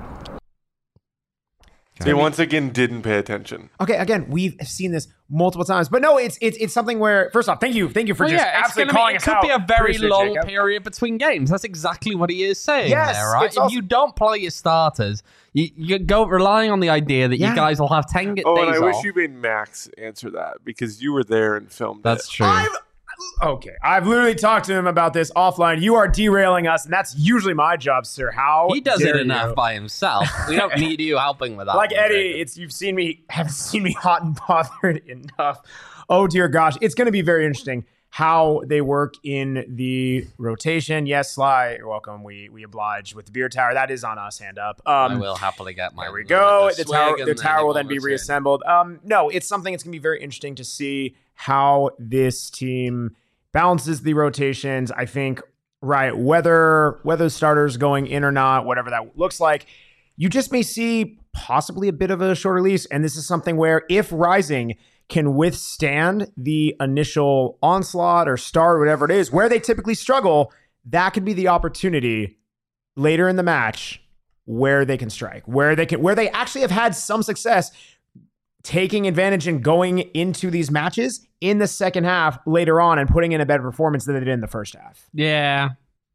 They once again didn't pay attention. Okay, again, we've seen this multiple times, but no, it's something where, first off, thank you for absolutely calling us out. It could be a very long period between games. That's exactly what he is saying there, right? If you don't play your starters, you go relying on the idea that you guys will have 10 days off. Oh, and I wish you made Max answer that because you were there and filmed That's it. True. Okay, I've literally talked to him about this offline. You are derailing us, and that's usually my job, sir. How he does it enough by himself. We don't need you helping with that. Like Eddie, haven't seen me hot and bothered enough. Oh dear gosh, it's going to be very interesting how they work in the rotation. Yes, Sly, you're welcome. We oblige with the beer tower. That is on us. Hand up. I will happily get my. There we go. The tower will then be reassembled. No, it's something. It's going to be very interesting to see how this team balances the rotations. I think, right, whether starters going in or not, whatever that looks like, you just may see possibly a bit of a short release. And this is something where if Rising can withstand the initial onslaught or start, whatever it is, where they typically struggle, that could be the opportunity later in the match where they can strike, where they actually have had some success taking advantage and going into these matches in the second half later on and putting in a better performance than they did in the first half. Yeah.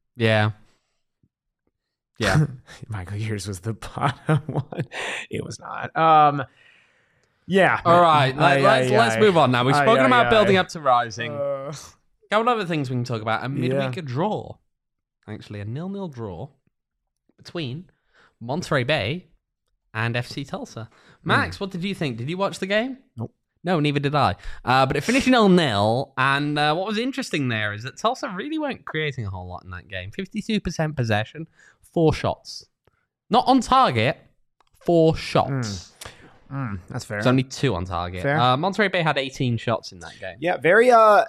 Michael, yours was the bottom one. It was not. Yeah. All right. Let's move on now. We've spoken about building up to Rising. A couple other things we can talk about. A midweek draw. Actually, a 0-0 draw between Monterey Bay and FC Tulsa. Max, what did you think? Did you watch the game? Nope. No, neither did I. But it finished 0-0. And what was interesting there is that Tulsa really weren't creating a whole lot in that game. 52% possession, 4 shots. Not on target, 4 shots. That's fair. There's only 2 on target. Monterey Bay had 18 shots in that game. Yeah, very.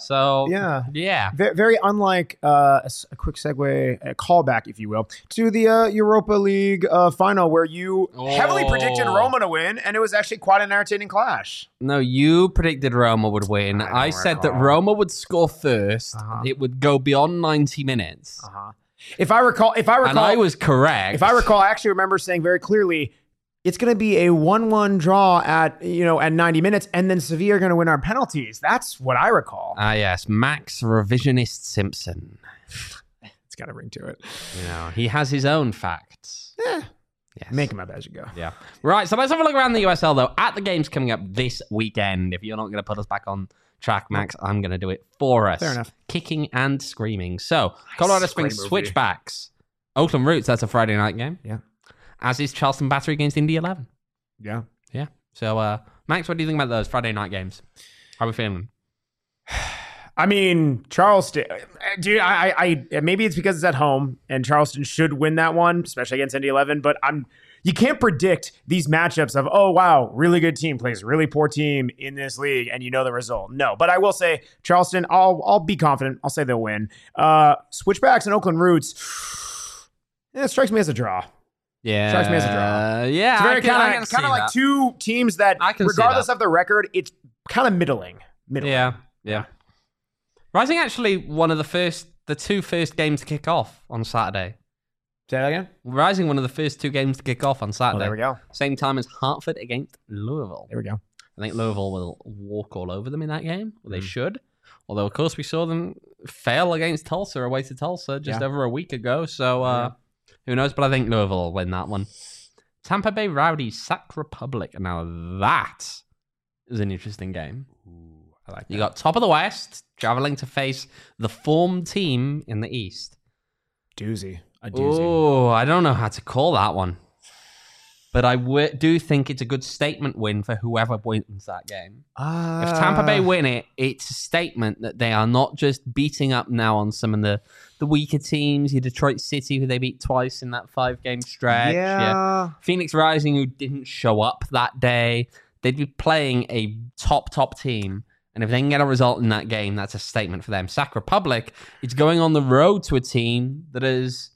Very unlike a quick segue, a callback, if you will, to the Europa League final where you heavily predicted Roma to win, and it was actually quite an entertaining clash. No, you predicted Roma would win. I said that Roma would score first. It would go beyond 90 minutes. If I recall, and I was correct. If I recall, I actually remember saying very clearly, it's going to be a 1-1 draw at 90 minutes, and then Sevilla are going to win our penalties. That's what I recall. Yes, Max Revisionist Simpson. It's got a ring to it. He has his own facts. Yes. Make them up as you go. Yeah. Right, so let's have a look around the USL, though. At the games coming up this weekend, if you're not going to put us back on track, Max, I'm going to do it for us. Fair enough. Kicking and screaming. So, Colorado Springs Switchbacks. Oakland Roots, that's a Friday night game. Yeah. As is Charleston Battery against Indy 11. Yeah. So, Max, what do you think about those Friday night games? How are we feeling? I mean, Charleston, dude, I maybe it's because it's at home and Charleston should win that one, especially against Indy 11, but you can't predict these matchups of, oh, wow, really good team plays really poor team in this league, and you know the result. No, but I will say Charleston, I'll be confident. I'll say they'll win. Switchbacks and Oakland Roots, it strikes me as a draw. Yeah. Strikes me as a draw. Yeah. It's very kind of like that. 2 teams that, regardless of the record, it's kind of middling. Yeah. Rising actually one of the 2 first games to kick off on Saturday. Say that again? Rising one of the first 2 games to kick off on Saturday. There we go. Same time as Hartford against Louisville. There we go. I think Louisville will walk all over them in that game. Well, they should. Although, of course, we saw them fail against Tulsa, away to Tulsa, just over a week ago. So, who knows? But I think Louisville will win that one. Tampa Bay Rowdies, Sac Republic. Now, that is an interesting game. Ooh, I like that. You got top of the West traveling to face the form team in the East. Doozy. Oh, I don't know how to call that one. But I do think it's a good statement win for whoever wins that game. If Tampa Bay win it, it's a statement that they are not just beating up now on some of the weaker teams. Your Detroit City, who they beat twice in that 5-game stretch. Yeah. Phoenix Rising, who didn't show up that day. They'd be playing a top team. And if they can get a result in that game, that's a statement for them. Sac Republic, it's going on the road to a team that has,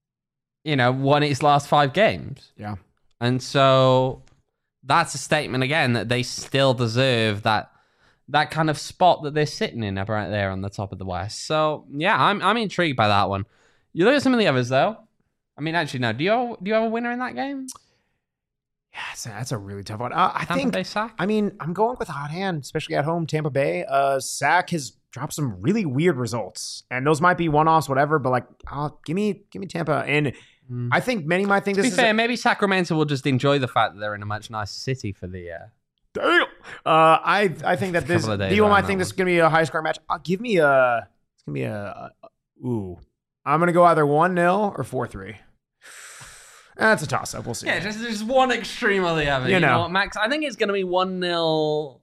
won its last 5 games. Yeah. And so that's a statement again that they still deserve that kind of spot that they're sitting in right there on the top of the West. So yeah, I'm intrigued by that one. You look at some of the others though. I mean, actually, no. Do you have a winner in that game? Yeah, that's a really tough one. I think Bay Sac? I mean, I'm going with a hot hand, especially at home. Tampa Bay. Sac has dropped some really weird results, and those might be one-offs, whatever. But give me Tampa. And I think many might think this is... To be fair, maybe Sacramento will just enjoy the fact that they're in a much nicer city for the... Damn! I think that this Theo might think this is gonna be a high score match. Give me a. It's gonna be ooh. I'm gonna go either 1-0 or 4-3. That's a toss up. We'll see. Yeah, just one extreme or the other. You know what, Max? I think it's gonna be 1-0, 0-0,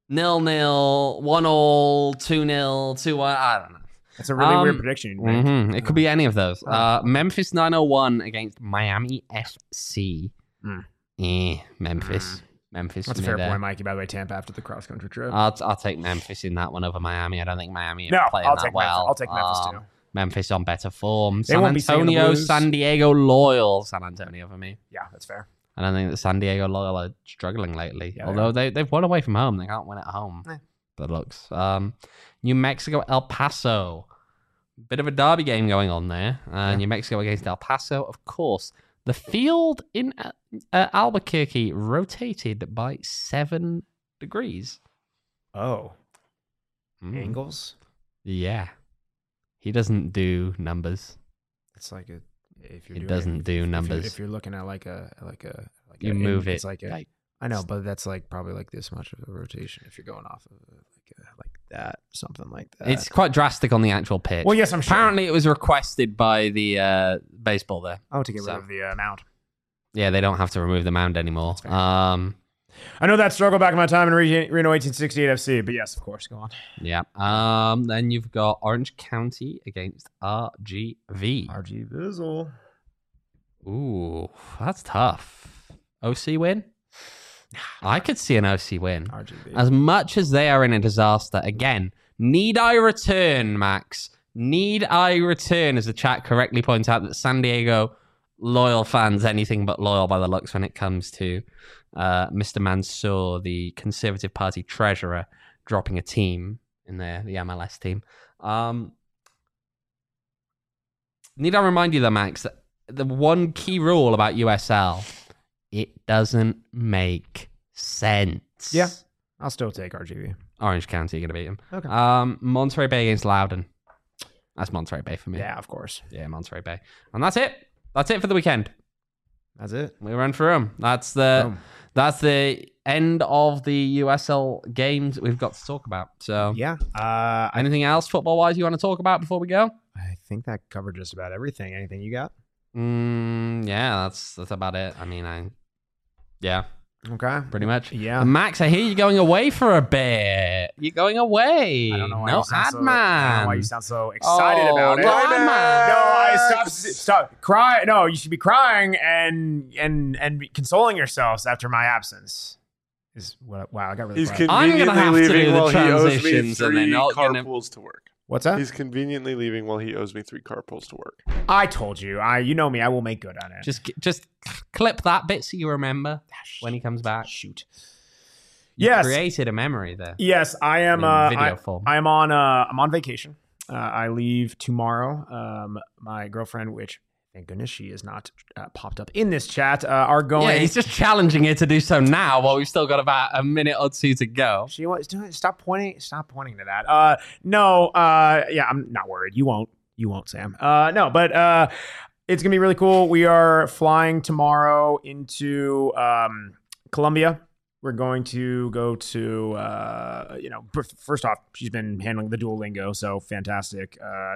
1-0, 2-0, 2-1. I don't know. That's a really weird prediction. Mm-hmm. It could be any of those. Memphis 901 against Miami FC. Memphis. That's a fair point, Mikey. By the way, Tampa after the cross country trip. I'll take Memphis in that one over Miami. I don't think Miami are playing that well. I'll take Memphis too. Memphis on better form. San Antonio, San Diego Loyal. San Antonio for me. Yeah, that's fair. I don't think that San Diego Loyal are struggling lately. Yeah, although they've won away from home. They can't win at home. That looks. New Mexico, El Paso. Bit of a derby game going on there. New Mexico against El Paso, of course. The field in Albuquerque rotated by 7 degrees. Oh. Angles? Yeah. He doesn't do numbers. It's like if you're looking at like you move it. It's like I know, but that's like probably like this much of a rotation if you're going off of like that, something like that. It's quite drastic on the actual pitch. Well, yes, I'm sure. Apparently, it was requested by the baseball there. Oh, to get rid of the mound. Yeah, they don't have to remove the mound anymore. I know that struggle back in my time in Reno 1868 FC, but yes, of course, go on. Yeah. Then you've got Orange County against RGV. RG Vizzle. Ooh, that's tough. OC win? I could see an OC win. RGV. As much as they are in a disaster, again, need I return, Max? Need I return, as the chat correctly points out, that San Diego Loyal fans anything but loyal by the looks when it comes to Mr. Mansour, the Conservative Party treasurer, dropping a team in the MLS team. Need I remind you, though, Max, that the one key rule about USL, it doesn't make sense. Yeah, I'll still take RGV. Orange County, you're going to beat them. Okay. Monterey Bay against Loudoun. That's Monterey Bay for me. Yeah, of course. Yeah, Monterey Bay. And that's it. That's it for the weekend. That's it. We run through them. That's the end of the USL games we've got to talk about. So yeah. Anything else football-wise you want to talk about before we go? I think that covered just about everything. Anything you got? Yeah, that's about it. I mean, yeah. Okay. Pretty much. Yeah. And Max, I hear you're going away for a bit. You're going away. I don't know why no you sound ad man. I don't know why you sound so excited about it. No ad man. No, stop cry. No, you should be crying and consoling yourselves after my absence. Wow, I got really quiet. I'm gonna have to do the transitions and they're not carpools to work. What's that? He's conveniently leaving while he owes me 3 carpools to work. I told you. You know me. I will make good on it. Just clip that bit so you remember when he comes back. Shoot. You created a memory there. Yes, I am. Video form. I'm on vacation. I leave tomorrow. My girlfriend, which thank goodness she is not popped up in this chat, are going. Yeah, he's just challenging her to do so now while we've still got about a minute or two to go. She wants to stop pointing to that. No. Yeah, I'm not worried. You won't, Sam. No, but it's gonna be really cool. We are flying tomorrow into Colombia. We're going to go to, first off, she's been handling the Duolingo, so fantastic.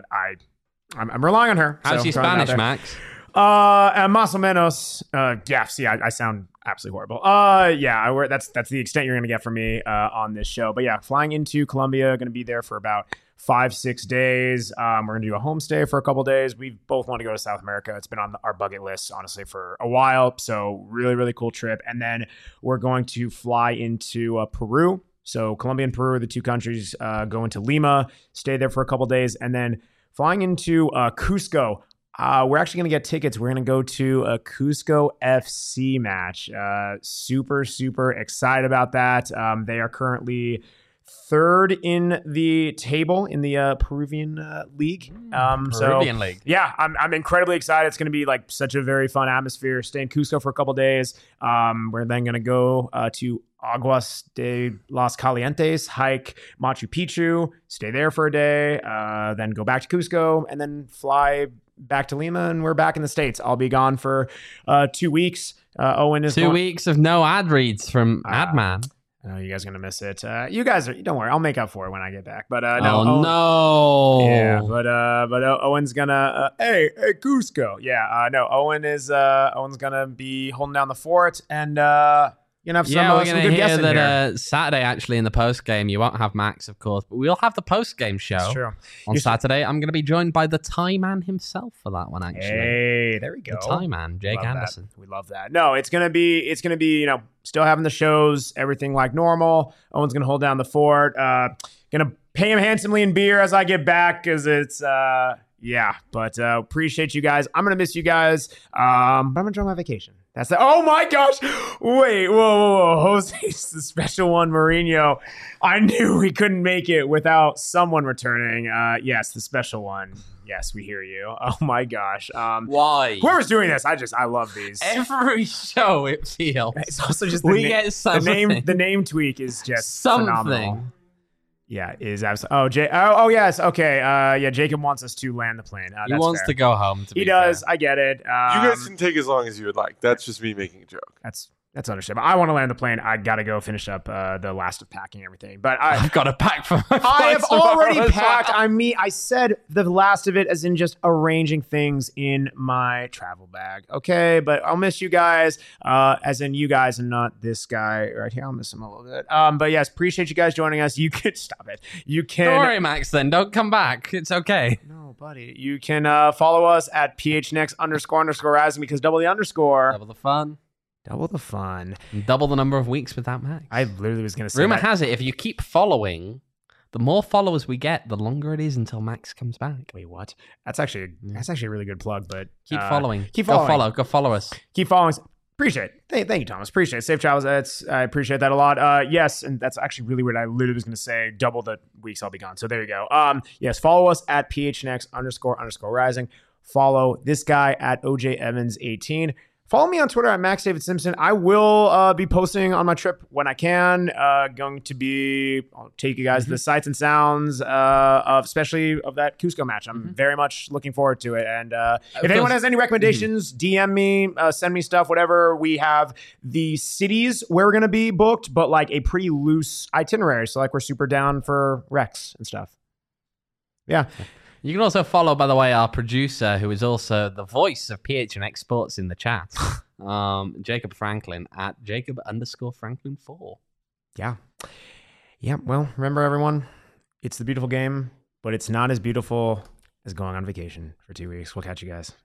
I'm relying on her. How's your Spanish, Max? Más o menos. Yeah, see, I sound absolutely horrible. That's the extent you're going to get from me on this show. But yeah, flying into Colombia, going to be there for about 5-6 days. We're going to do a homestay for a couple days. We both want to go to South America. It's been on our bucket list, honestly, for a while. So really, really cool trip. And then we're going to fly into Peru. So Colombia and Peru are the two countries. Go into Lima, stay there for a couple days, and then flying into Cusco. We're actually going to get tickets. We're going to go to a Cusco FC match. Super, super excited about that. They are currently third in the table in the Peruvian league. Peruvian league. Yeah, I'm incredibly excited. It's going to be like such a very fun atmosphere. Stay in Cusco for a couple days. We're then going to go to Aguas de los Calientes, hike Machu Picchu, stay there for a day, then go back to Cusco, and then fly back to Lima, and we're back in the States. I'll be gone for 2 weeks. Owen is 2 weeks of no ad reads from Adman. Oh, you guys are gonna miss it. You guys don't worry. I'll make up for it when I get back. But no. Yeah, but Owen's gonna. Hey, Cusco. Yeah, no. Owen's gonna be holding down the fort, and have some, we're gonna hear that here. Saturday actually in the post game you won't have Max, of course, but we'll have the post game show on Saturday. I'm gonna be joined by the Tie Man himself for that one. Actually, hey, there we go. The Tie Man, Jake Anderson. We love that. No, it's gonna be still having the shows, everything like normal. Owen's gonna hold down the fort. Gonna pay him handsomely in beer as I get back because it's but appreciate you guys. I'm gonna miss you guys. But I'm gonna enjoy my vacation. That's the. Oh my gosh! Wait, whoa! Jose's the special one, Mourinho. I knew we couldn't make it without someone returning. Yes, the special one. Yes, we hear you. Oh my gosh. Why? Whoever's doing this, I love these. Every show it feels. It's also just get something. The name tweak is just something. Phenomenal. Yeah, is absolutely. Oh, yes. Okay. Yeah, Jacob wants us to land the plane. He wants to go home. He does. I get it. You guys can take as long as you would like. That's just me making a joke. That's understandable. I want to land the plane. I gotta go finish up the last of packing everything. But I've got to pack for my I have already packed. I said the last of it as in just arranging things in my travel bag. Okay, but I'll miss you guys. As in you guys and not this guy right here. I'll miss him a little bit. But yes, appreciate you guys joining us. You could stop it. You can. Don't worry, Max. Then don't come back. It's okay. No, buddy. You can follow us at PHNX__rising because double the underscore. Double the fun. Double the fun. And double the number of weeks without Max. I literally was going to say Rumor has it, if you keep following, the more followers we get, the longer it is until Max comes back. Wait, what? That's actually a really good plug, but... Keep following. Keep following. Go follow us. Keep following. Appreciate it. Thank you, Thomas. Appreciate it. Safe travels. I appreciate that a lot. Yes, and that's actually really weird. I literally was going to say double the weeks I'll be gone. So there you go. Yes, follow us at PHNX__rising. Follow this guy at OJ Evans 18. Follow me on Twitter at Max David Simpson. I will be posting on my trip when I can. I'll take you guys to the sights and sounds especially of that Cusco match. I'm very much looking forward to it. And if anyone has any recommendations, DM me, send me stuff, whatever. We have the cities where we're going to be booked, but like a pretty loose itinerary. So like we're super down for Rex and stuff. Yeah. You can also follow, by the way, our producer, who is also the voice of PHNX Sports in the chat, Jacob Franklin at Jacob_Franklin4. Yeah. Yeah. Well, remember, everyone, it's the beautiful game, but it's not as beautiful as going on vacation for 2 weeks. We'll catch you guys.